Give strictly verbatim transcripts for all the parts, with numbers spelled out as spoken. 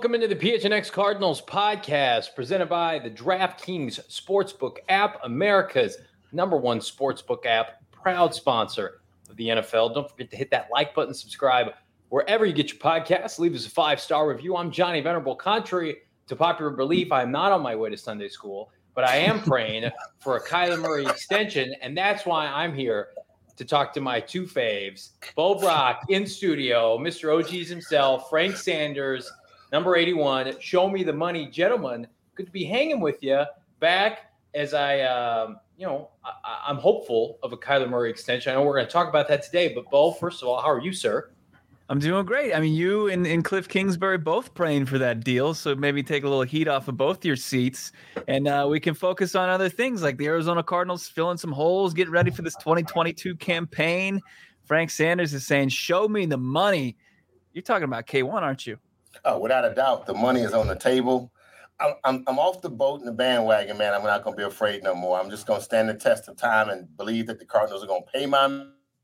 Welcome into the P H N X Cardinals podcast presented by the DraftKings Sportsbook app, America's number one sportsbook app, proud sponsor of the N F L. Don't forget to hit that like button, subscribe wherever you get your podcasts. Leave us a five-star review. I'm Johnny Venerable. Contrary to popular belief, I am not on my way to Sunday school, but I am praying for a Kyler Murray extension, and that's why I'm here to talk to my two faves, Bo Brock in studio, Mister O Gs himself, Frank Sanders, number eighty-one. Show me the money, gentlemen. Good to be hanging with you back as I, um, you know, I, I'm hopeful of a Kyler Murray extension. I know we're going to talk about that today, but Bo, first of all, how are you, sir? I'm doing great. I mean, you and, and Cliff Kingsbury both praying for that deal, so maybe take a little heat off of both your seats, and uh, we can focus on other things like the Arizona Cardinals filling some holes, getting ready for this twenty twenty-two campaign. Frank Sanders is saying, show me the money. You're talking about K one, aren't you? Oh, without a doubt, the money is on the table. I'm, I'm, I'm off the boat and the bandwagon, man. I'm not going to be afraid no more. I'm just going to stand the test of time and believe that the Cardinals are going to pay my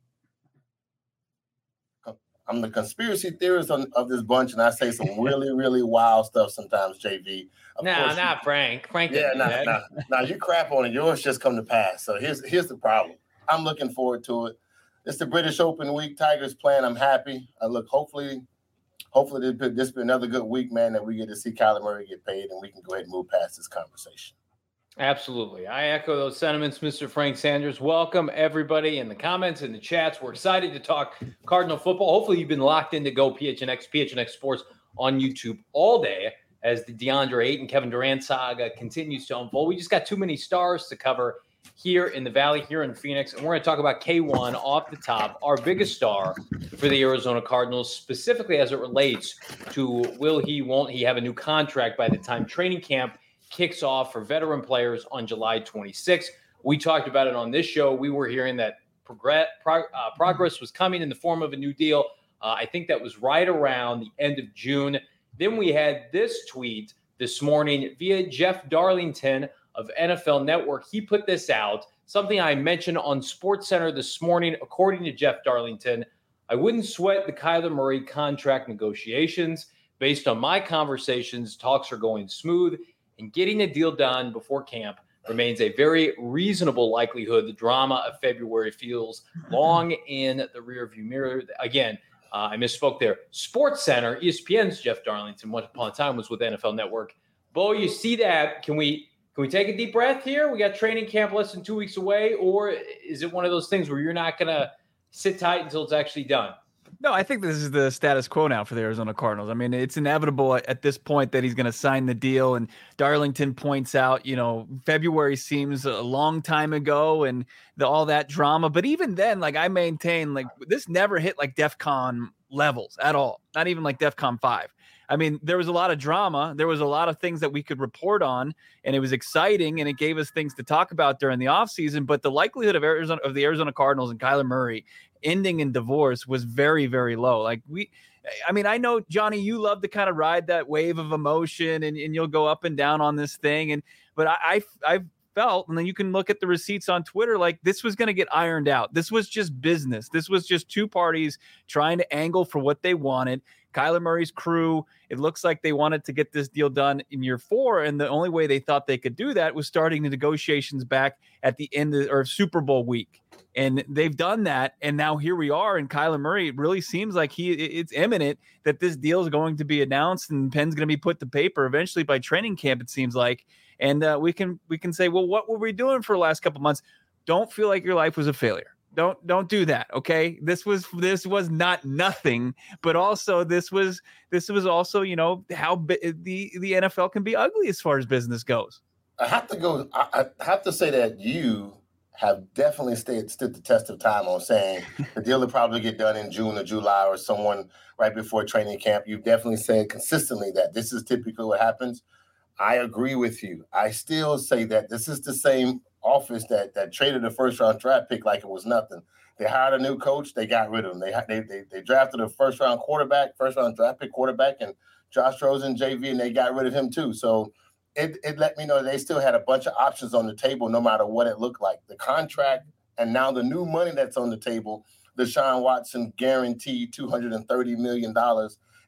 I'm the conspiracy theorist on, of this bunch, and I say some really, really wild stuff sometimes, J V. No, nah, not you, Frank. Frank yeah, no, nah, nah, nah, you crap on it. Yours just come to pass. So here's here's the problem. I'm looking forward to it. It's the British Open week. Tigers playing. I'm happy. I look, hopefully, hopefully this, this be another good week, man, that we get to see Kyler Murray get paid, and we can go ahead and move past this conversation. Absolutely. I echo those sentiments, Mister Frank Sanders. Welcome, everybody, in the comments and the chats. We're excited to talk Cardinal football. Hopefully, you've been locked in to go P H N X, P H N X Sports on YouTube all day as the DeAndre Ayton, Kevin Durant saga continues to unfold. We just got too many stars to cover here in the Valley, here in Phoenix, and we're going to talk about K one off the top, our biggest star for the Arizona Cardinals, specifically as it relates to will he, won't he have a new contract by the time training camp kicks off for veteran players on July twenty-sixth. We talked about it on this show. We were hearing that progress, prog- uh, progress was coming in the form of a new deal. Uh, I think that was right around the end of June. Then we had this tweet this morning via Jeff Darlington of N F L Network. He put this out, something I mentioned on SportsCenter this morning. According to Jeff Darlington, I wouldn't sweat the Kyler Murray contract negotiations. Based on my conversations, talks are going smooth, and getting a deal done before camp remains a very reasonable likelihood. The drama of February feels long in the rearview mirror. Again, uh, I misspoke there. SportsCenter, E S P N's Jeff Darlington, once upon a time was with N F L Network. Bo, you see that? Can we can we take a deep breath here? We got training camp less than two weeks away, or is it one of those things where you're not going to sit tight until it's actually done? No, I think this is the status quo now for the Arizona Cardinals. I mean, it's inevitable at this point that he's going to sign the deal. And Darlington points out, you know, February seems a long time ago and the, all that drama. But even then, like I maintain, like this never hit like DEFCON levels at all. Not even like DEFCON five. I mean, there was a lot of drama. There was a lot of things that we could report on, and it was exciting, and it gave us things to talk about during the offseason. But the likelihood of Arizona of the Arizona Cardinals and Kyler Murray ending in divorce was very, very low. Like we, I mean, I know, Johnny, you love to kind of ride that wave of emotion, and, and you'll go up and down on this thing. And but I, I I've felt, and then you can look at the receipts on Twitter, like this was going to get ironed out. This was just business. This was just two parties trying to angle for what they wanted. Kyler Murray's crew, it looks like they wanted to get this deal done in year four, and the only way they thought they could do that was starting the negotiations back at the end of or Super Bowl week. And they've done that, and now here we are, and Kyler Murray, it really seems like he it's imminent that this deal is going to be announced and pen's going to be put to paper eventually by training camp, it seems like. And uh, we can we can say, well, what were we doing for the last couple months? Don't feel like your life was a failure. Don't don't do that, okay? This was this was not nothing, but also this was this was also, you know, how bi- the the N F L can be ugly as far as business goes. I have to go. I, I have to say that you have definitely stayed stood the test of time on saying the deal will probably get done in June or July or someone right before training camp. You've definitely said consistently that this is typically what happens. I agree with you. I still say that this is the same office that that traded a first round draft pick like it was nothing. They hired a new coach. They got rid of him. They they they, they drafted a first round quarterback, first round draft pick quarterback, and Josh Rosen, J V, and they got rid of him too. So it it let me know they still had a bunch of options on the table, no matter what it looked like. The contract and now the new money that's on the table, Deshaun Watson guaranteed two hundred thirty million dollars.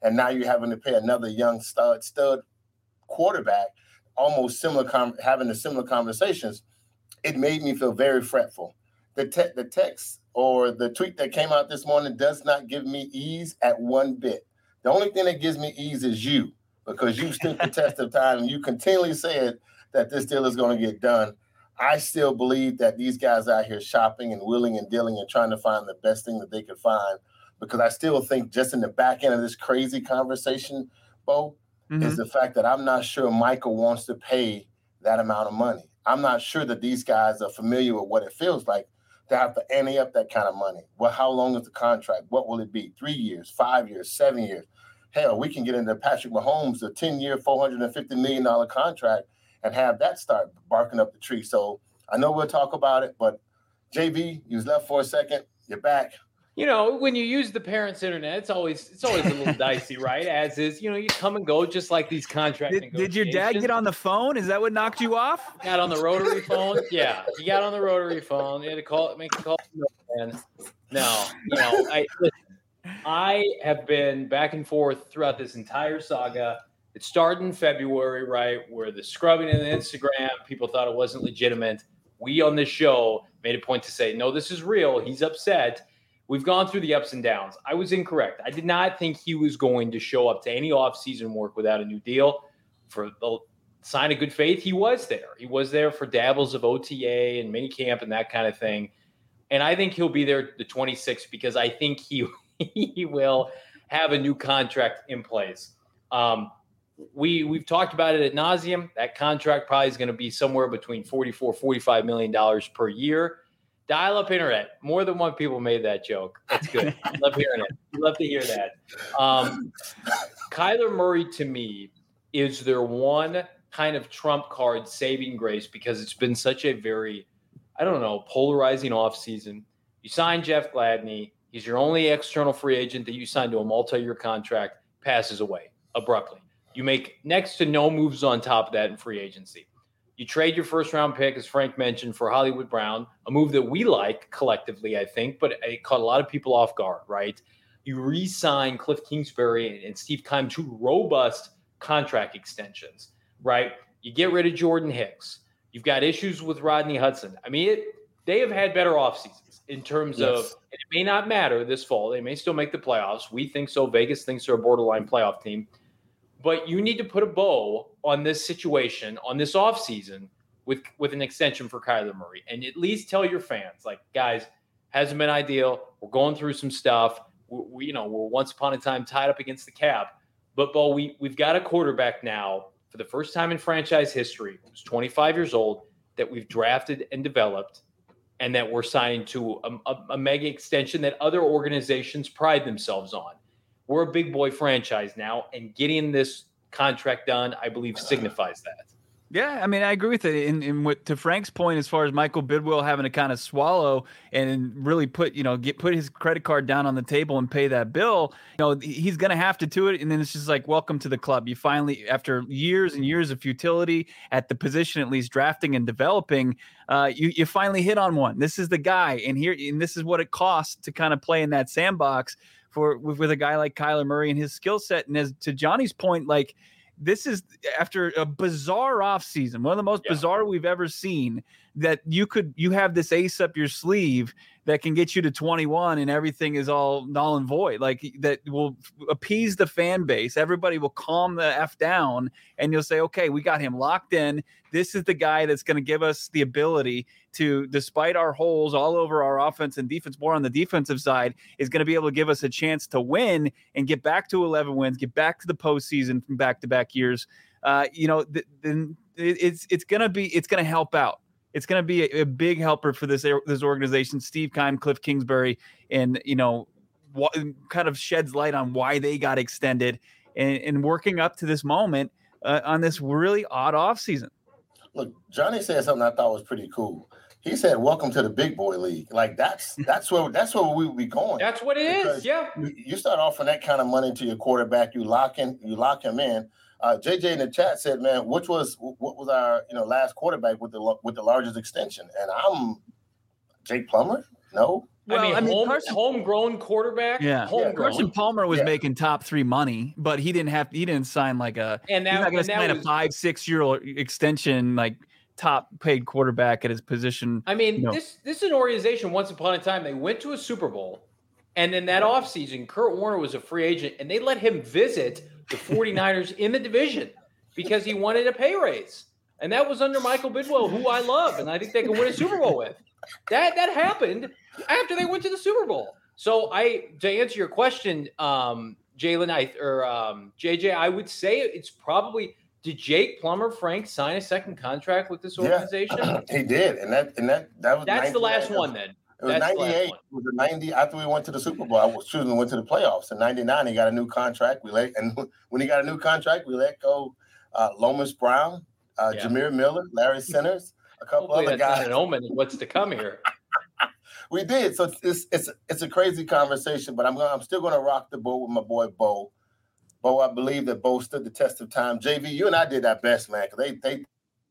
and now you're having to pay another young stud stud quarterback, almost similar, com- having the similar conversations. It made me feel very fretful. The te- the text or the tweet that came out this morning does not give me ease at one bit. The only thing that gives me ease is you, because you stood the test of time and you continually said that this deal is going to get done. I still believe that these guys out here shopping and wheeling and dealing and trying to find the best thing that they could find, because I still think just in the back end of this crazy conversation, Bo, mm-hmm. is the fact that I'm not sure Michael wants to pay that amount of money. I'm not sure that these guys are familiar with what it feels like to have to ante up that kind of money. Well, how long is the contract? What will it be? Three years, five years, seven years? Hell, we can get into Patrick Mahomes, a ten-year, four hundred fifty million dollars contract, and have that start barking up the tree. So I know we'll talk about it, but J B, you was left for a second. You're back. You know, when you use the parents' internet, it's always it's always a little dicey, right? As is, you know, you come and go just like these contract did, negotiations. Did your dad get on the phone? Is that what knocked you off? Got on the rotary phone? Yeah, he got on the rotary phone. He had to call, make a call. And no, you know, I I have been back and forth throughout this entire saga. It started in February, right, where the scrubbing in the Instagram, people thought it wasn't legitimate. We on this show made a point to say, no, this is real. He's upset. We've gone through the ups and downs. I was incorrect. I did not think he was going to show up to any offseason work without a new deal. For the sign of good faith, he was there. He was there for dabbles of O T A and minicamp and that kind of thing. And I think he'll be there the twenty-sixth because I think he he will have a new contract in place. Um, we, we've talked about it ad nauseum. That contract probably is going to be somewhere between forty-four, forty-five million dollars per year. Dial-up internet. More than one people made that joke. That's good. Love hearing it. Love to hear that. Um, Kyler Murray, to me, is their one kind of trump card saving grace because it's been such a very, I don't know, polarizing offseason. You signed Jeff Gladney. He's your only external free agent that you signed to a multi-year contract, passes away abruptly. You make next to no moves on top of that in free agency. You trade your first-round pick, as Frank mentioned, for Hollywood Brown, a move that we like collectively, I think, but it caught a lot of people off guard, right? You re-sign Cliff Kingsbury and Steve Keim, two robust contract extensions, right? You get rid of Jordan Hicks. You've got issues with Rodney Hudson. I mean, it, they have had better off seasons in terms yes. of, and it may not matter this fall. They may still make the playoffs. We think so. Vegas thinks they're a borderline playoff team. But you need to put a bow on this situation, on this offseason with, with an extension for Kyler Murray. And at least tell your fans, like, guys, hasn't been ideal. We're going through some stuff. We, we you know, we're once upon a time tied up against the cap. But, Bo, we, we've got a quarterback now for the first time in franchise history, who's twenty-five years old, that we've drafted and developed, and that we're signing to a, a, a mega extension that other organizations pride themselves on. We're a big boy franchise now, and getting this contract done, I believe, signifies that. Yeah, I mean, I agree with it. And, and what, to Frank's point, as far as Michael Bidwill having to kind of swallow and really put, you know, get put his credit card down on the table and pay that bill, you know, he's going to have to do it. And then it's just like, welcome to the club. You finally, after years and years of futility at the position, at least drafting and developing, uh, you you finally hit on one. This is the guy, and here, and this is what it costs to kind of play in that sandbox for with, with a guy like Kyler Murray and his skill set. And as to Johnny's point, like, this is after a bizarre offseason, one of the most yeah. bizarre we've ever seen, that you could you have this ace up your sleeve that can get you to twenty-one and everything is all null and void. Like, that will appease the fan base. Everybody will calm the F down, and you'll say, okay, we got him locked in. This is the guy that's going to give us the ability to, despite our holes all over our offense and defense, more on the defensive side, is going to be able to give us a chance to win and get back to eleven wins, get back to the postseason from back-to-back years. Uh, you know, then th- it's it's going to be it's going to help out. It's going to be a, a big helper for this this organization. Steve Keim, Cliff Kingsbury, and, you know, what kind of sheds light on why they got extended and, and working up to this moment uh, on this really odd offseason. Look, Johnny said something I thought was pretty cool. He said, "Welcome to the big boy league." Like, that's that's where that's where we would be going. That's what it because is. Yeah. You start offering that kind of money to your quarterback, you lock in, you lock him in. Uh, J J in the chat said, "Man, which was what was our you know last quarterback with the with the largest extension?" And I'm Jake Plummer. No, Well, I mean, I mean, home, Carson, homegrown quarterback. yeah, homegrown. Carson Palmer was Yeah. making top three money, but he didn't have. He didn't sign like a. And he's that, not going and to that sign was, a five, six year old extension like top paid quarterback at his position. I mean, you know. this this is an organization. Once upon a time, they went to a Super Bowl, and in that offseason, Kurt Warner was a free agent, and they let him visit the 49ers in the division because he wanted a pay raise. And that was under Michael Bidwell, who I love, and I think they can win a Super Bowl with. That that happened after they went to the Super Bowl. So I, to answer your question, um, Jalen, I or um, J J, I would say it's probably. Did Jake Plummer Frank sign a second contract with this organization? Yeah, he did, and that and that that was that's the last one. Then it was that's ninety-eight. It was a ninety after we went to the Super Bowl. I was excuse me, went to the playoffs. In ninety-nine, he got a new contract. We let and when he got a new contract, we let go uh, Lomas Brown, uh, Yeah. Jameer Miller, Larry Centers, a couple Hopefully other that's guys. not an omen of what's to come here. We did. So it's it's it's a crazy conversation, but I'm gonna, I'm still going to rock the boat with my boy Bo. Bo, I believe that Bo stood the test of time. J V, you and I did our best, man. Cause they they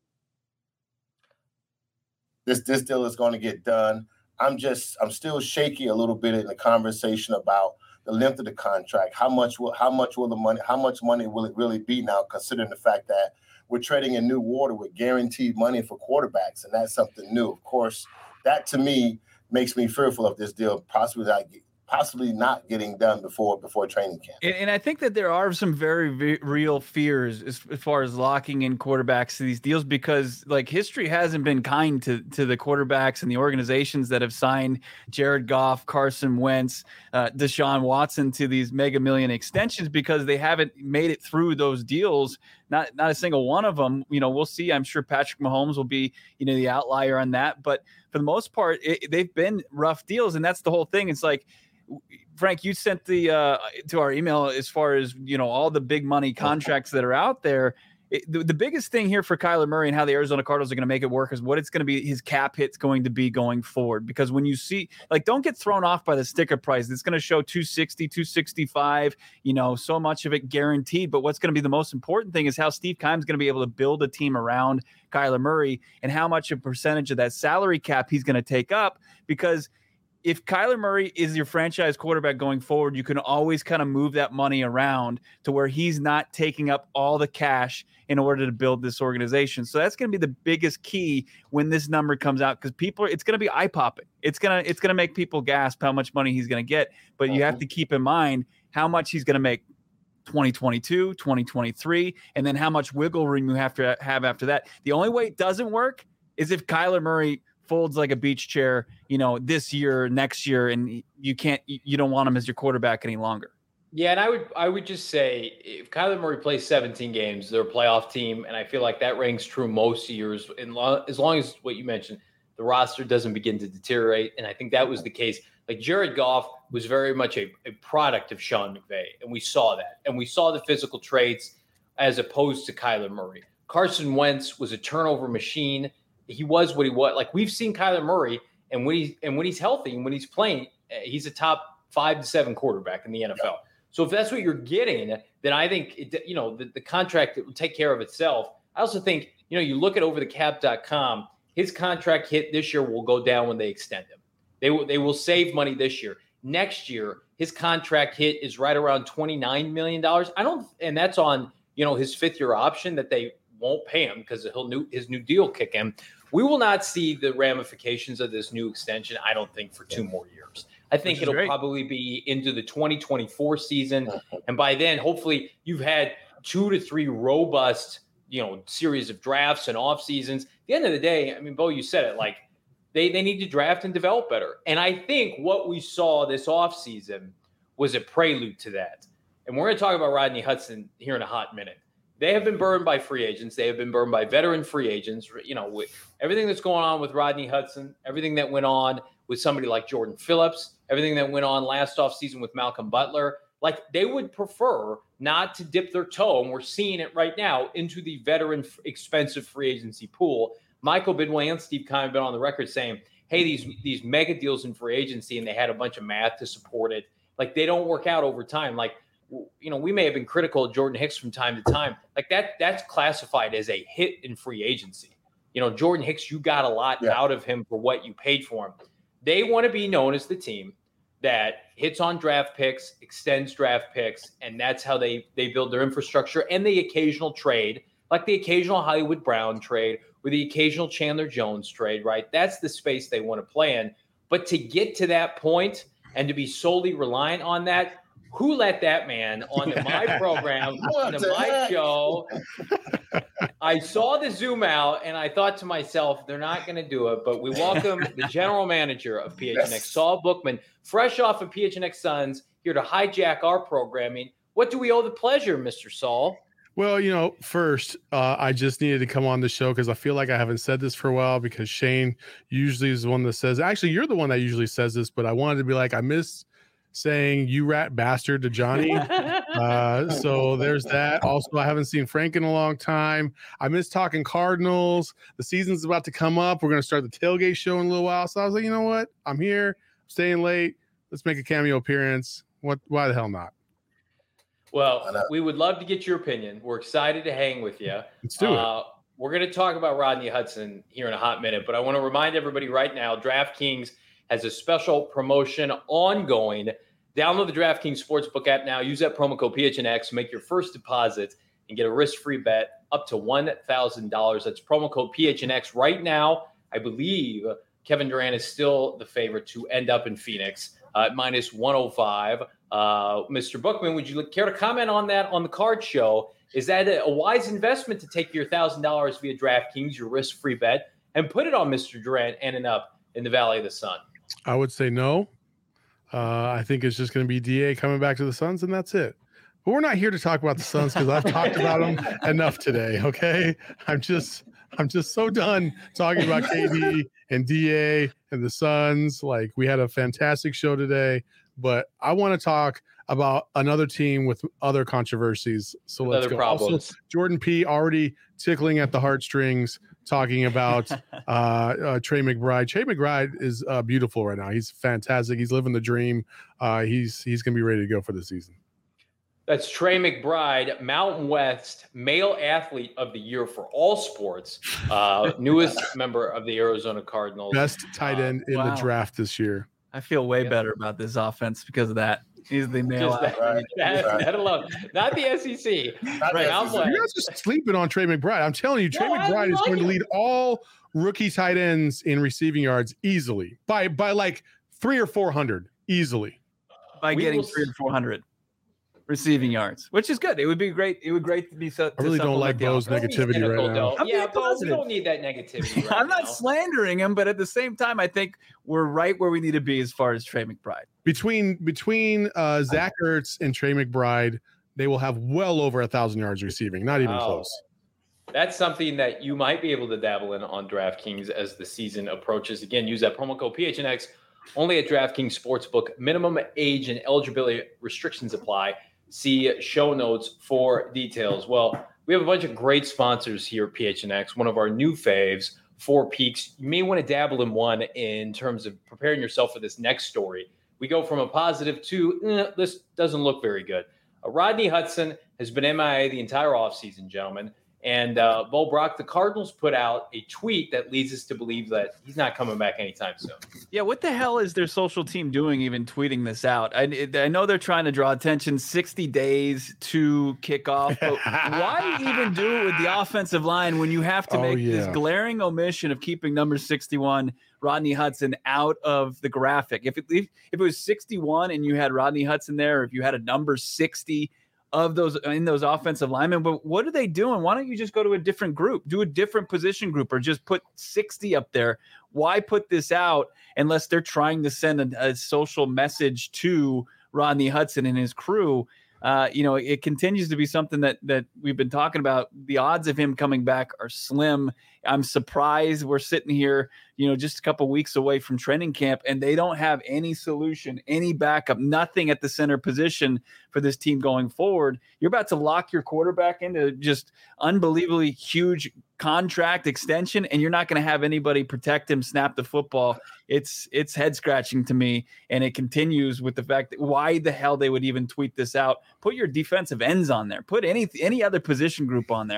this this deal is going to get done. I'm just I'm still shaky a little bit in the conversation about the length of the contract. How much will how much will the money how much money will it really be now, considering the fact that we're treading in new water with guaranteed money for quarterbacks, and that's something new. Of course, that to me makes me fearful of this deal possibly not possibly not getting done before before training camp. And, and I think that there are some very, very real fears as, as far as locking in quarterbacks to these deals, because like history hasn't been kind to to the quarterbacks and the organizations that have signed Jared Goff, Carson Wentz, uh, Deshaun Watson to these mega million extensions, because they haven't made it through those deals. Not not a single one of them. You know, we'll see. I'm sure Patrick Mahomes will be, you know, the outlier on that. But for the most part, it, they've been rough deals. And that's the whole thing. It's like, Frank, you sent the uh, to our email as far as, you know, all the big money contracts that are out there. It, the, the biggest thing here for Kyler Murray and how the Arizona Cardinals are going to make it work is what it's going to be, his cap hit's going to be going forward. Because when you see, like, don't get thrown off by the sticker price. It's going to show two sixty, two sixty-five, you know, so much of it guaranteed. But what's going to be the most important thing is how Steve Keim's going to be able to build a team around Kyler Murray and how much a percentage of that salary cap he's going to take up. Because if Kyler Murray is your franchise quarterback going forward, you can always kind of move that money around to where he's not taking up all the cash in order to build this organization. So that's going to be the biggest key when this number comes out, because people are, it's going to be eye popping. It's going to, it's going to make people gasp how much money he's going to get, but you have to keep in mind how much he's going to make twenty twenty-two, twenty twenty-three, and then how much wiggle room you have to have after that. The only way it doesn't work is if Kyler Murray folds like a beach chair, you know, this year, next year, and you can't, you don't want him as your quarterback any longer. Yeah, and I would I would just say if Kyler Murray plays seventeen games, they're a playoff team, and I feel like that rings true most years. And lo- as long as what you mentioned, the roster doesn't begin to deteriorate, and I think that was the case. Like Jared Goff was very much a, a product of Sean McVay, and we saw that, and we saw the physical traits as opposed to Kyler Murray. Carson Wentz was a turnover machine. He was what he was. Like we've seen Kyler Murray, and when he's and when he's healthy and when he's playing, he's a top five to seven quarterback in the N F L. So if that's what you're getting, then I think it, you know the, the contract will take care of itself. I also think, you know, you look at over the cap dot com, his contract hit this year will go down when they extend him. They will they will save money this year. Next year, his contract hit is right around twenty-nine million dollars. I don't, and that's on, you know, his fifth year option that they won't pay him because he'll new his new deal kick in. We will not see the ramifications of this new extension, I don't think, for two more years. I think it'll great. probably be into the twenty twenty-four season. And by then, hopefully, you've had two to three robust, you know, series of drafts and off seasons. At the end of the day, I mean, Bo, you said it, like they, they need to draft and develop better. And I think what we saw this off season was a prelude to that. And we're going to talk about Rodney Hudson here in a hot minute. They have been burned by free agents. They have been burned by veteran free agents. You know, with everything that's going on with Rodney Hudson, everything that went on with somebody like Jordan Phillips, everything that went on last offseason with Malcolm Butler, like they would prefer not to dip their toe, and we're seeing it right now, into the veteran expensive free agency pool. Michael Bidwell and Steve Keim have been on the record saying, hey, these, these mega deals in free agency, and they had a bunch of math to support it, like they don't work out over time. Like, you know, we may have been critical of Jordan Hicks from time to time. Like that, that's classified as a hit in free agency. You know, Jordan Hicks, you got a lot yeah. out of him for what you paid for him. They want to be known as the team that hits on draft picks, extends draft picks, and that's how they they build their infrastructure and the occasional trade, like the occasional Hollywood Brown trade or the occasional Chandler Jones trade, right? That's the space they want to play in. But to get to that point and to be solely reliant on that, who let that man onto my program, onto my heck? show? I saw the Zoom out, and I thought to myself, they're not going to do it. But we welcome the general manager of P H N X, yes. Saul Bookman, fresh off of P H N X Suns, here to hijack our programming. What do we owe the pleasure, Mister Saul? Well, you know, first, uh, I just needed to come on the show because I feel like I haven't said this for a while because Shane usually is the one that says, actually, you're the one that usually says this, but I wanted to be like, I miss saying you rat bastard to Johnny. uh, so there's that. Also, I haven't seen Frank in a long time. I miss talking Cardinals. The season's about to come up. We're going to start the tailgate show in a little while. So I was like, you know what? I'm here. I'm staying late. Let's make a cameo appearance. What? Why the hell not? Well, we would love to get your opinion. We're excited to hang with you. Let's do uh, it. We're going to talk about Rodney Hudson here in a hot minute, but I want to remind everybody right now, DraftKings has a special promotion ongoing. Download the DraftKings Sportsbook app now. Use that promo code P H N X. Make your first deposit and get a risk-free bet up to one thousand dollars. That's promo code P H N X right now. I believe Kevin Durant is still the favorite to end up in Phoenix uh, at minus one oh five. Uh, Mister Bookman, would you care to comment on that on the card show? Is that a wise investment to take your one thousand dollars via DraftKings, your risk-free bet, and put it on Mister Durant ending up in the Valley of the Sun? I would say no. Uh, I think it's just going to be D A coming back to the Suns, and that's it. But we're not here to talk about the Suns because I've talked about them enough today. Okay, I'm just I'm just so done talking about K D and D A and the Suns. Like, we had a fantastic show today, but I want to talk about another team with other controversies. So let's other go. Problems. Also, Jordan P. already tickling at the heartstrings, talking about uh, uh, Trey McBride. Trey McBride is uh, beautiful right now. He's fantastic. He's living the dream. Uh, he's he's going to be ready to go for the season. That's Trey McBride, Mountain West Male Athlete of the Year for all sports, uh, newest member of the Arizona Cardinals. Best tight end uh, in wow. the draft this year. I feel way yeah. better about this offense because of that. He's the male Just that, right. that, right. that alone, not the S E C. Not right. the S E C. You guys are sleeping on Trey McBride. I'm telling you, Trey no, McBride is like going it. to lead all rookie tight ends in receiving yards easily by by like three or four hundred easily. By We getting will three or four hundred receiving yards, which is good. It would be great. It would be great to be. So, I really don't like Bo's negativity right now. I'm yeah, but we don't need that negativity. Right I'm not now. slandering him, but at the same time, I think we're right where we need to be as far as Trey McBride. Between between uh, Zach Ertz and Trey McBride, they will have well over a thousand yards receiving. Not even wow. close. That's something that you might be able to dabble in on DraftKings as the season approaches. Again, use that promo code P H N X only at DraftKings Sportsbook. Minimum age and eligibility restrictions apply. See show notes for details. Well, we have a bunch of great sponsors here at P H N X. One of our new faves, Four Peaks. You may want to dabble in one in terms of preparing yourself for this next story. We go from a positive to, eh, this doesn't look very good. Uh, Rodney Hudson has been M I A the entire offseason, gentlemen. And uh, Bo Brock, the Cardinals put out a tweet that leads us to believe that he's not coming back anytime soon. Yeah, what the hell is their social team doing even tweeting this out? I, I know they're trying to draw attention, sixty days to kick off, but why even do it with the offensive line when you have to Oh, make yeah. this glaring omission of keeping number sixty-one, Rodney Hudson, out of the graphic? If it, if, if it was sixty-one and you had Rodney Hudson there, or if you had a number sixty of those in those offensive linemen, but what are they doing? Why don't you just go to a different group, do a different position group, or just put sixty up there? Why put this out unless they're trying to send a, a social message to Rodney Hudson and his crew? Uh, you know, it continues to be something that that we've been talking about. The odds of him coming back are slim. I'm surprised we're sitting here, you know, just a couple weeks away from training camp, and they don't have any solution, any backup, nothing at the center position for this team going forward. You're about to lock your quarterback into just unbelievably huge contract extension, and you're not going to have anybody protect him, snap the football. It's it's head scratching to me, and it continues with the fact that why the hell they would even tweet this out. Put your defensive ends on there. Put any any other position group on there.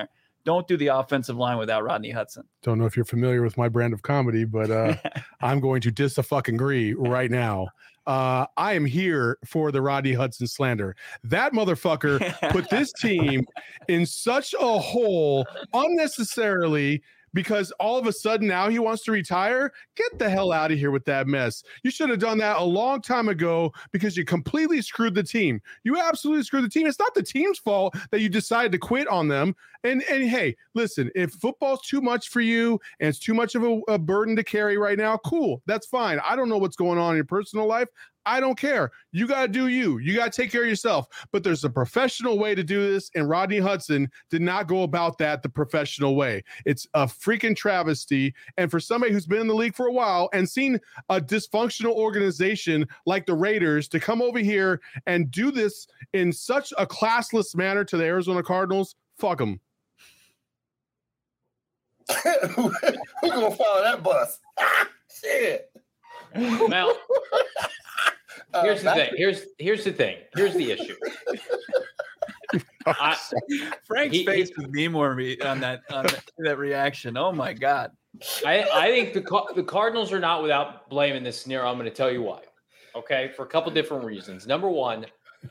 don't do the offensive line without Rodney Hudson. Don't know if you're familiar with my brand of comedy, but uh, I'm going to dis a fucking agree right now. Uh, I am here for the Rodney Hudson slander. That motherfucker put this team in such a hole unnecessarily because all of a sudden now he wants to retire. Get the hell out of here with that mess. You should have done that a long time ago because you completely screwed the team. You absolutely screwed the team. It's not the team's fault that you decided to quit on them. And and hey, listen, if football's too much for you and it's too much of a, a burden to carry right now, cool. That's fine. I don't know what's going on in your personal life. I don't care. You got to do you. You got to take care of yourself. But there's a professional way to do this, and Rodney Hudson did not go about that the professional way. It's a freaking travesty. And for somebody who's been in the league for a while and seen a dysfunctional organization like the Raiders to come over here and do this in such a classless manner to the Arizona Cardinals, fuck them. Who's gonna follow that bus? Shit. Now, here's the thing. Here's here's the thing. Here's the issue. I, Frank's he, face he, with me more on that on that, that reaction. Oh my God. I, I think the the Cardinals are not without blame in this scenario. I'm going to tell you why. Okay, for a couple different reasons. Number one,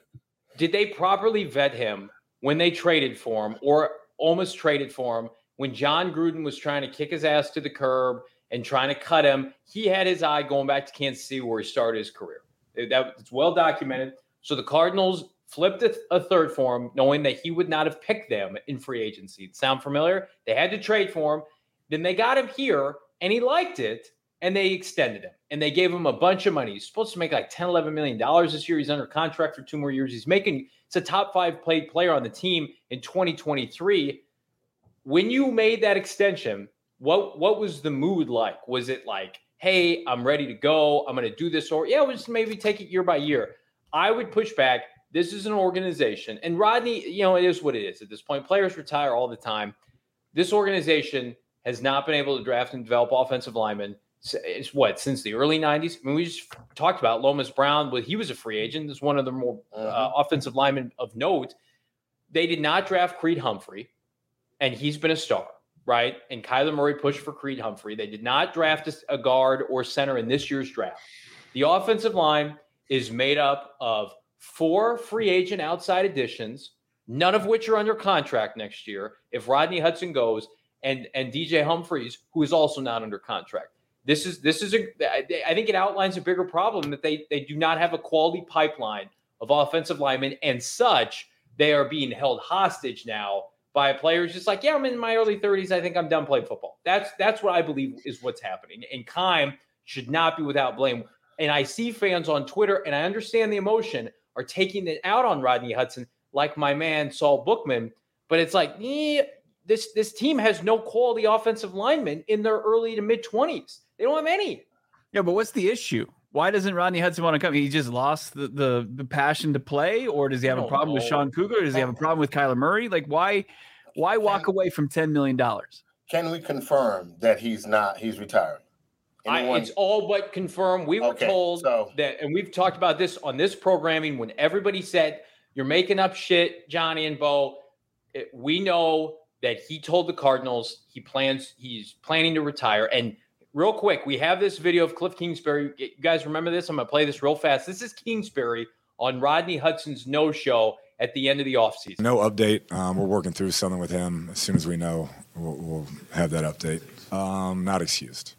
did they properly vet him when they traded for him, or almost traded for him, when John Gruden was trying to kick his ass to the curb and trying to cut him? He had his eye going back to Kansas City where he started his career. That it's well documented. So the Cardinals flipped a, a third for him, knowing that he would not have picked them in free agency. Sound familiar? They had to trade for him. Then they got him here, and he liked it, and they extended him. And they gave him a bunch of money. He's supposed to make like ten, eleven million dollars this year. He's under contract for two more years. He's making – it's a top five paid player on the team in twenty twenty-three. When you made that extension, what what was the mood like? Was it like, hey, I'm ready to go, I'm going to do this, or yeah, we'll just maybe take it year by year? I would push back. This is an organization, and Rodney, you know, it is what it is at this point. Players retire all the time. This organization has not been able to draft and develop offensive linemen. It's what, since the early nineties? I mean, we just talked about Lomas Brown. Well, he was a free agent. This is one of the more uh, offensive linemen of note. They did not draft Creed Humphrey, and he's been a star, right? And Kyler Murray pushed for Creed Humphrey. They did not draft a guard or center in this year's draft. The offensive line is made up of four free agent outside additions, none of which are under contract next year if Rodney Hudson goes, and and D J Humphries, who is also not under contract. This is this is a I think it outlines a bigger problem that they they do not have a quality pipeline of offensive linemen, and such they are being held hostage now by players just like, yeah, I'm in my early thirties. I think I'm done playing football. That's that's what I believe is what's happening. And Keim should not be without blame. And I see fans on Twitter, and I understand the emotion, are taking it out on Rodney Hudson, like my man Saul Bookman. But it's like, eh, this this team has no quality offensive linemen in their early to mid twenties. They don't have any. Yeah, but what's the issue? Why doesn't Rodney Hudson want to come? He just lost the the, the passion to play, or does he have a problem know. with Sean Cougar? Does he have a problem with Kyler Murray? Like, why why walk can, away from ten million dollars? Can we confirm that he's not he's retiring? I, it's all but confirmed. We were okay, told so. that, and we've talked about this on this programming when everybody said, you're making up shit, Johnny and Bo. It, we know that he told the Cardinals he plans, he's planning to retire. And real quick, we have this video of Cliff Kingsbury. You guys remember this? I'm going to play this real fast. This is Kingsbury on Rodney Hudson's no-show at the end of the offseason. No update. Um, we're working through something with him. As soon as we know, we'll, we'll have that update. Um, not excused.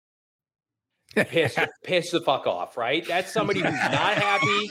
Piss, piss the fuck off, right? That's somebody who's not happy.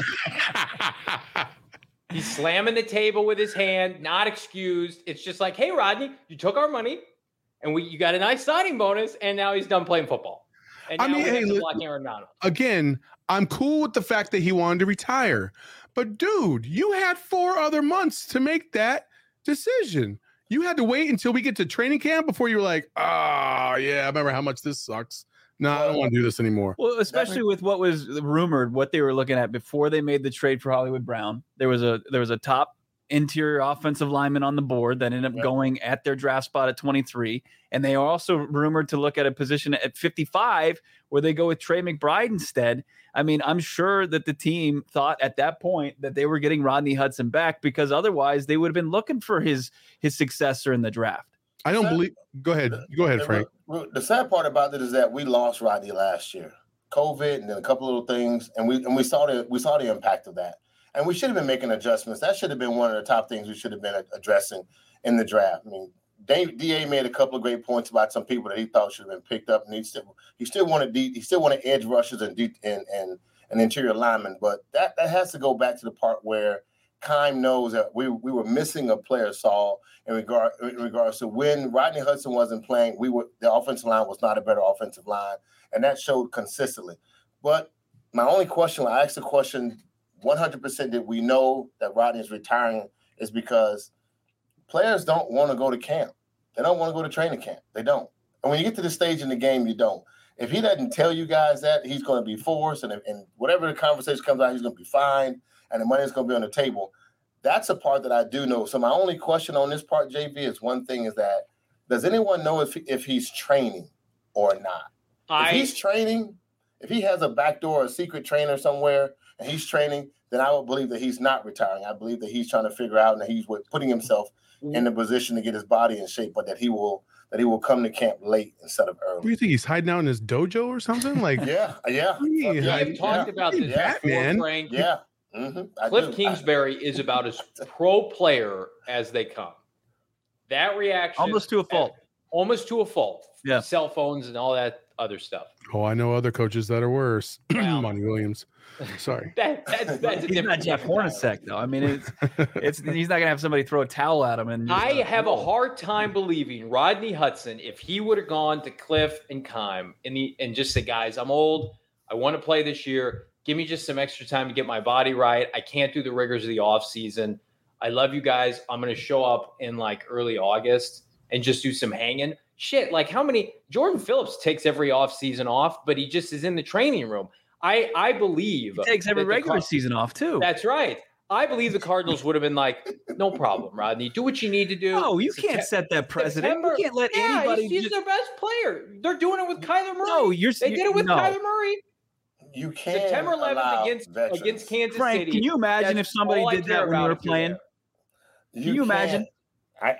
He's slamming the table with his hand, not excused. It's just like, hey, Rodney, you took our money, and we you got a nice signing bonus, and now he's done playing football. And now I mean, we hey, block Aaron Donald. Again, I'm cool with the fact that he wanted to retire. But, dude, you had four other months to make that decision. You had to wait until we get to training camp before you were like, oh, yeah, I remember how much this sucks. No, I don't want to do this anymore. Well, especially with what was rumored, what they were looking at before they made the trade for Hollywood Brown. There was a there was a top interior offensive lineman on the board that ended up yep. going at their draft spot at twenty-three. And they are also rumored to look at a position at fifty-five where they go with Trey McBride instead. I mean, I'm sure that the team thought at that point that they were getting Rodney Hudson back, because otherwise they would have been looking for his his successor in the draft. I don't sad, believe. Go ahead. Go ahead, Frank. The, the sad part about it is that we lost Rodney last year, COVID, and then a couple little things, and we and we saw the we saw the impact of that. And we should have been making adjustments. That should have been one of the top things we should have been addressing in the draft. I mean, D A made a couple of great points about some people that he thought should have been picked up, and he still he still wanted he still wanted edge rushers and and and, and interior linemen. But that that has to go back to the part where Keim knows that we we were missing a player, Saul, in regard in regards to when Rodney Hudson wasn't playing, we were the offensive line was not a better offensive line, and that showed consistently. But my only question, I asked the question, one hundred percent did we know that Rodney is retiring, is because players don't want to go to camp. They don't want to go to training camp. They don't. And when you get to this stage in the game, you don't. If he doesn't tell you guys that, he's going to be forced, and, and whatever the conversation comes out, he's going to be fined, and the money is going to be on the table. That's a part that I do know. So my only question on this part, J V, is one thing is that, does anyone know if if he's training or not? I, if he's training, if he has a backdoor, a secret trainer somewhere, and he's training, then I would believe that he's not retiring. I believe that he's trying to figure out and that he's putting himself in the position to get his body in shape, but that he will that he will come to camp late instead of early. Do you think he's hiding out in his dojo or something? Like, yeah, yeah. We yeah, have talked yeah, about this yeah, before, Frank. Yeah. Mm-hmm. Cliff do. Kingsbury is about as pro player as they come. That reaction, almost to a fault. Almost to a fault. Yeah. Cell phones and all that other stuff. Oh, I know other coaches that are worse. Wow. Monty Williams. Sorry. that, that's that's a he's not Jeff Hornacek, though. I mean, it's it's he's not gonna have somebody throw a towel at him. And just, I uh, have a hard time believing Rodney Hudson, if he would have gone to Cliff and Keim and the and just said, guys, I'm old. I want to play this year. Give me just some extra time to get my body right. I can't do the rigors of the off season. I love you guys. I'm going to show up in like early August and just do some hanging. Shit, like how many – Jordan Phillips takes every off season off, but he just is in the training room. I, I believe – He takes every regular Card- season off too. That's right. I believe the Cardinals would have been like, no problem, Rodney. Do what you need to do. No, you September, can't set that precedent. September, you can't let yeah, anybody he's, he's just... their best player. They're doing it with Kyler Murray. No, you're They did it with no. Kyler Murray. You can't September eleventh against veterans. against Kansas Frank, City. can you imagine if somebody did that when you were playing? You Can you imagine? I,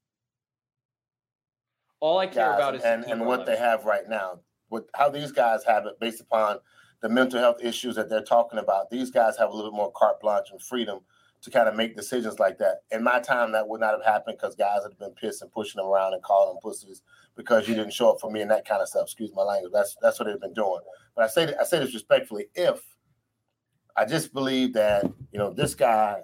all I care guys, about is and, and what they have right now. With how these guys have it based upon the mental health issues that they're talking about. These guys have a little bit more carte blanche and freedom to kind of make decisions like that. In my time, that would not have happened because guys would have been pissed and pushing them around and calling them pussies because you didn't show up for me and that kind of stuff. Excuse my language. That's that's what they've been doing. But I say I say this respectfully. If I just believe that, you know, this guy,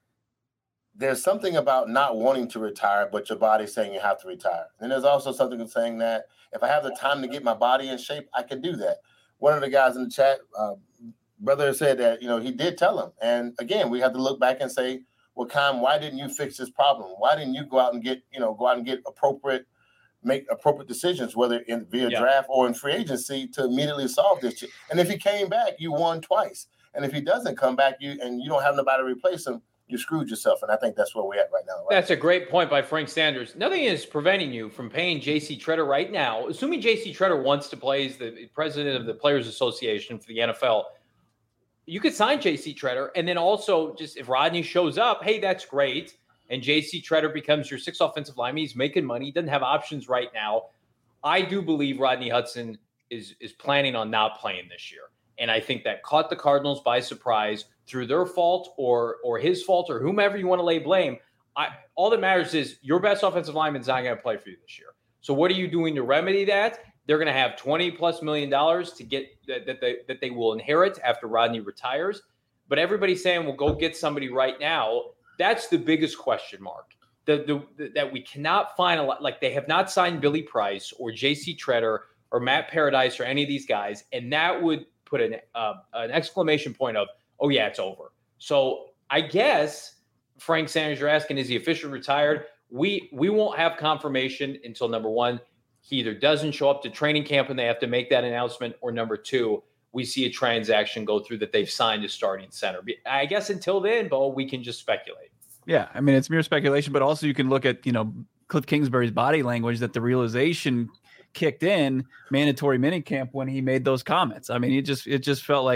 there's something about not wanting to retire, but your body's saying you have to retire. And there's also something saying that if I have the time to get my body in shape, I can do that. One of the guys in the chat, uh, brother said that, you know, he did tell him. And again, we have to look back and say, well, Keim, why didn't you fix this problem? Why didn't you go out and get, you know, go out and get appropriate, make appropriate decisions, whether in via yeah. draft or in free agency to immediately solve this? And if he came back, you won twice. And if he doesn't come back, you and you don't have nobody to replace him, you screwed yourself. And I think that's where we're at right now. Right? That's a great point by Frank Sanders. Nothing is preventing you from paying J C Tretter right now, assuming J C Tretter wants to play as the president of the Players Association for the N F L. You could sign J C Tretter, and then also just if Rodney shows up, hey, that's great. And J C Tretter becomes your sixth offensive lineman. He's making money. He doesn't have options right now. I do believe Rodney Hudson is is planning on not playing this year. And I think that caught the Cardinals by surprise through their fault or or his fault or whomever you want to lay blame. I, all that matters is your best offensive lineman is not going to play for you this year. So what are you doing to remedy that? They're going to have twenty plus million dollars to get that, that, they, that they will inherit after Rodney retires. But everybody's saying, well, go get somebody right now. That's the biggest question mark. The, the, the, that we cannot find a lot. Like they have not signed Billy Price or J C Tretter or Matt Paradise or any of these guys. And that would put an uh, an exclamation point of, oh, yeah, it's over. So I guess, Frank Sanders, you're asking, is he officially retired? We we won't have confirmation until, number one, he either doesn't show up to training camp and they have to make that announcement, or number two, we see a transaction go through that they've signed a starting center. I guess until then, Bo, we can just speculate. Yeah, I mean, it's mere speculation, but also you can look at, you know, Cliff Kingsbury's body language that the realization kicked in mandatory minicamp when he made those comments. I mean, it just it just felt like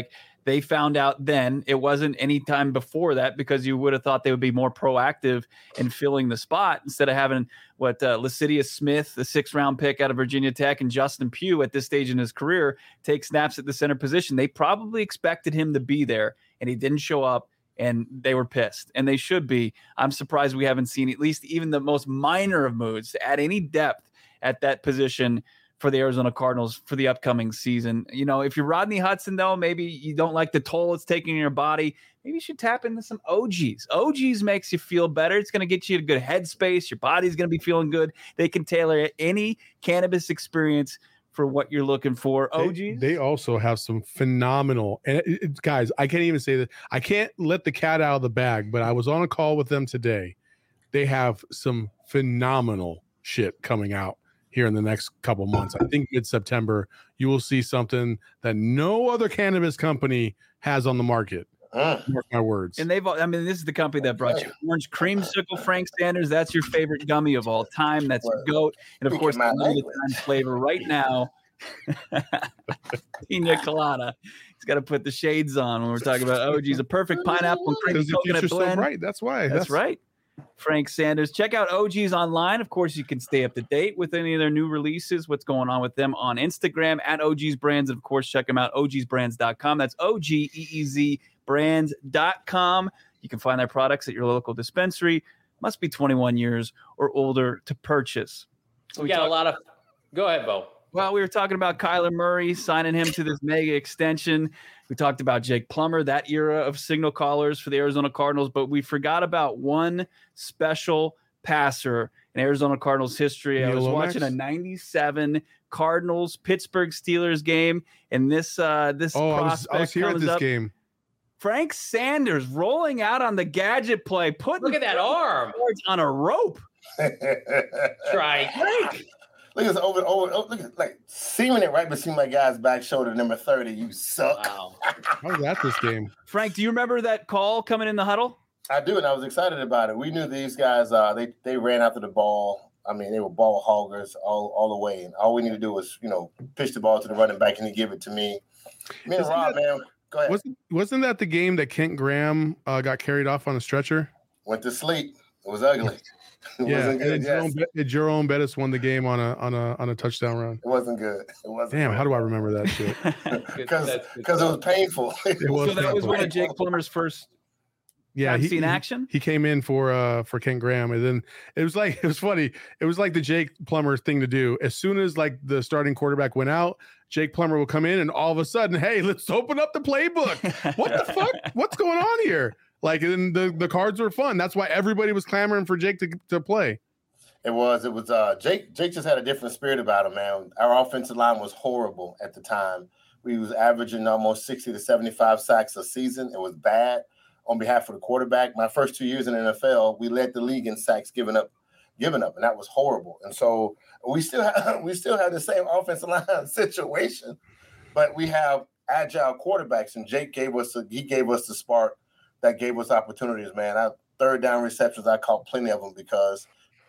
They found out then. It wasn't any time before that, because you would have thought they would be more proactive in filling the spot instead of having what uh, Lasidius Smith, the sixth round pick out of Virginia Tech, and Justin Pugh at this stage in his career take snaps at the center position. They probably expected him to be there, and he didn't show up, and they were pissed, and they should be. I'm surprised we haven't seen at least even the most minor of moves to add any depth at that position for the Arizona Cardinals for the upcoming season. You know, if you're Rodney Hudson, though, maybe you don't like the toll it's taking in your body, maybe you should tap into some O Gs. O Gs makes you feel better. It's going to get you a good headspace. Your body's going to be feeling good. They can tailor any cannabis experience for what you're looking for. O Gs. They, they also have some phenomenal, and it, it, guys, I can't even say that. I can't let the cat out of the bag, but I was on a call with them today. They have some phenomenal shit coming out here in the next couple months. I think mid-September, you will see something that no other cannabis company has on the market. Mark my words. And they've, I mean, this is the company that brought you Orange Creamsicle, Frank Sanders. That's your favorite gummy of all time. That's your GOAT. And of course, the limited time flavor right now, Pina Colada. He's got to put the shades on when we're talking about O Gs. A perfect pineapple and creamy coconut blend. So right. That's why. That's, That's right. Frank Sanders. Check out O Gs online. Of course, you can stay up to date with any of their new releases, what's going on with them on Instagram at O Gs Brands. And of course, check them out, O Gs brands dot com. That's O G E E Z brands dot com. You can find their products at your local dispensary. Must be twenty-one years or older to purchase. So we, we got talk- a lot of – go ahead, Bo. Well, we were talking about Kyler Murray, signing him to this mega extension. We talked about Jake Plummer, that era of signal callers for the Arizona Cardinals, but we forgot about one special passer in Arizona Cardinals history. Neil I was Lomax. watching a ninety-seven Cardinals Pittsburgh Steelers game, and this uh, this oh, prospect I was, I was here at this up. game. Frank Sanders rolling out on the gadget play, putting look at that arm on a rope. Try Frank. Look at over, over, oh, look at like seaming it right between my guy's back shoulder, number thirty. You suck. Wow. I was at this game. Frank, do you remember that call coming in the huddle? I do, and I was excited about it. We knew these guys. Uh, they they ran after the ball. I mean, they were ball hoggers all, all the way, and all we need to do was, you know, pitch the ball to the running back and he give it to me. Me and Rob, man, go ahead. Wasn't wasn't that the game that Kent Graham uh, got carried off on a stretcher? Went to sleep. It was ugly. It yeah, wasn't good. And Jerome, yes. Jerome Bettis won the game on a on a on a touchdown run. It wasn't good. It wasn't. Damn, good. How do I remember that shit? Because because it was painful. It was so that painful. was one of Jake Plummer's first. Yeah, he seen action. He, he came in for uh for Kent Graham, and then it was like it was funny. It was like the Jake Plummer thing to do. As soon as like the starting quarterback went out, Jake Plummer will come in, and all of a sudden, hey, let's open up the playbook. What the fuck? What's going on here? Like, and the the cards were fun. That's why everybody was clamoring for Jake to to play. It was. It was. Uh, Jake. Jake just had a different spirit about him, man. Our offensive line was horrible at the time. We was averaging almost sixty to seventy-five sacks a season. It was bad. On behalf of the quarterback, my first two years in the N F L, we led the league in sacks given up, given up, and that was horrible. And so we still have we still have the same offensive line situation, but we have agile quarterbacks. And Jake gave us a, he gave us the spark that gave us opportunities. Man, I, third down receptions, I caught plenty of them because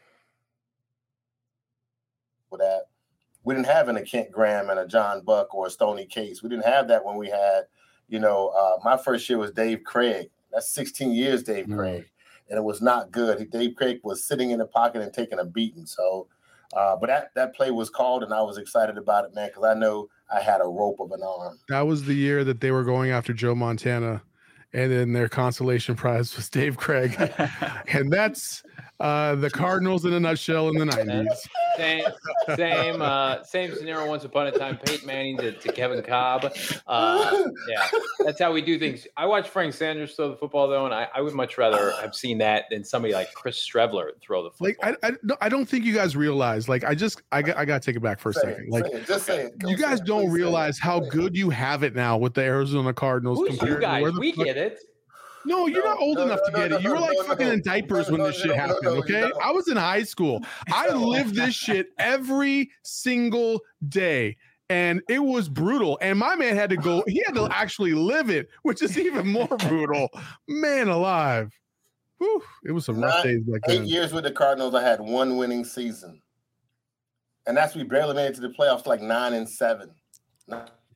with that we didn't have a Kent Graham and a John Buck or a Stoney Case. We didn't have that when we had, you know, uh, my first year was Dave Craig. That's sixteen years, Dave mm-hmm. Craig, and it was not good. He, Dave Craig was sitting in the pocket and taking a beating. So, uh, but that that play was called, and I was excited about it, man, because I know I had a rope of an arm. That was the year that they were going after Joe Montana, and then their consolation prize was Dave Craig, and that's uh, the Cardinals in a nutshell in the nineties. Same, same, uh, same scenario. Once upon a time, Peyton Manning to, to Kevin Cobb. Uh, yeah, that's how we do things. I watched Frank Sanders throw the football though, and I, I would much rather have seen that than somebody like Chris Strebler throw the football. Like I, I, no, I don't think you guys realize. Like I just, I got, I got to take it back for a say second. It, like it, just say it. You guys say don't it. realize how good you have it now with the Arizona Cardinals. Who's you guys? We fuck- get it. No, you're no, not old no, enough no, to get no, it. You no, were like no, fucking no, in diapers no, when no, this shit no, happened, no, no, okay? no. I was in high school. I lived this shit every single day, and it was brutal. And my man had to go, he had to actually live it, which is even more brutal. Man alive. Whew, it was some rough Nine, days back eight then. years with the Cardinals, I had one winning season. And that's we barely made it to the playoffs, like nine and seven.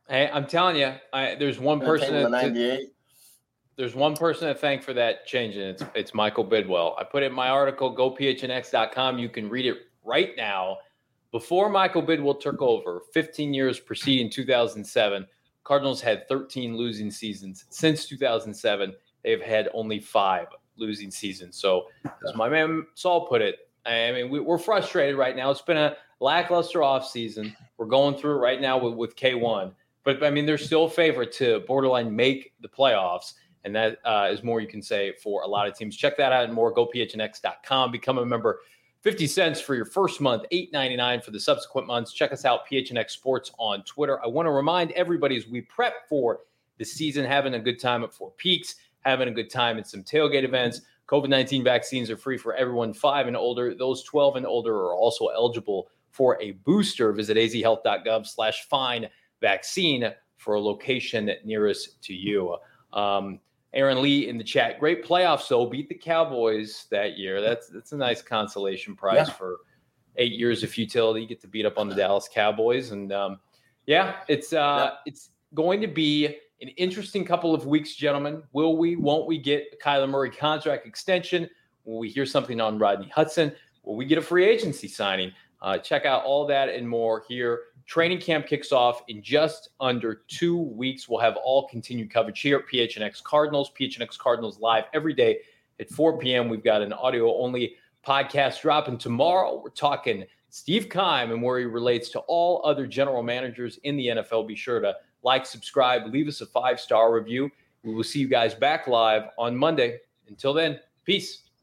Hey, I'm telling you, I, there's one person that ninety-eight. There's one person to thank for that change, and it's it's Michael Bidwell. I put it in my article, go P H N X dot com. You can read it right now. Before Michael Bidwell took over, fifteen years preceding two thousand seven, Cardinals had thirteen losing seasons. Since two thousand seven, they've had only five losing seasons. So, as my man Saul put it, I mean, we, we're frustrated right now. It's been a lackluster offseason. We're going through it right now with, with K one. But, I mean, they're still a favorite to borderline make the playoffs. And that uh, is more you can say for a lot of teams. Check that out and more. Go P H N X dot com. Become a member. fifty cents for your first month, eight ninety-nine for the subsequent months. Check us out, P H N X Sports on Twitter. I want to remind everybody as we prep for the season, having a good time at Four Peaks, having a good time at some tailgate events. COVID nineteen vaccines are free for everyone five and older. Those twelve and older are also eligible for a booster. Visit azhealth.gov slash find vaccine for a location nearest to you. Um, Aaron Lee in the chat. Great playoffs, though. Beat the Cowboys that year. That's that's a nice consolation prize yeah. for eight years of futility. You get to beat up on the Dallas Cowboys. And, um, yeah, it's uh, yeah. it's going to be an interesting couple of weeks, gentlemen. Will we, won't we get a Kyler Murray contract extension? Will we hear something on Rodney Hudson? Will we get a free agency signing? Uh, check out all that and more here. Training camp kicks off in just under two weeks. We'll have all continued coverage here at P H N X Cardinals. P H N X Cardinals live every day at four p.m. We've got an audio-only podcast dropping tomorrow. We're talking Steve Keim and where he relates to all other general managers in the N F L. Be sure to like, subscribe, leave us a five-star review. We will see you guys back live on Monday. Until then, peace.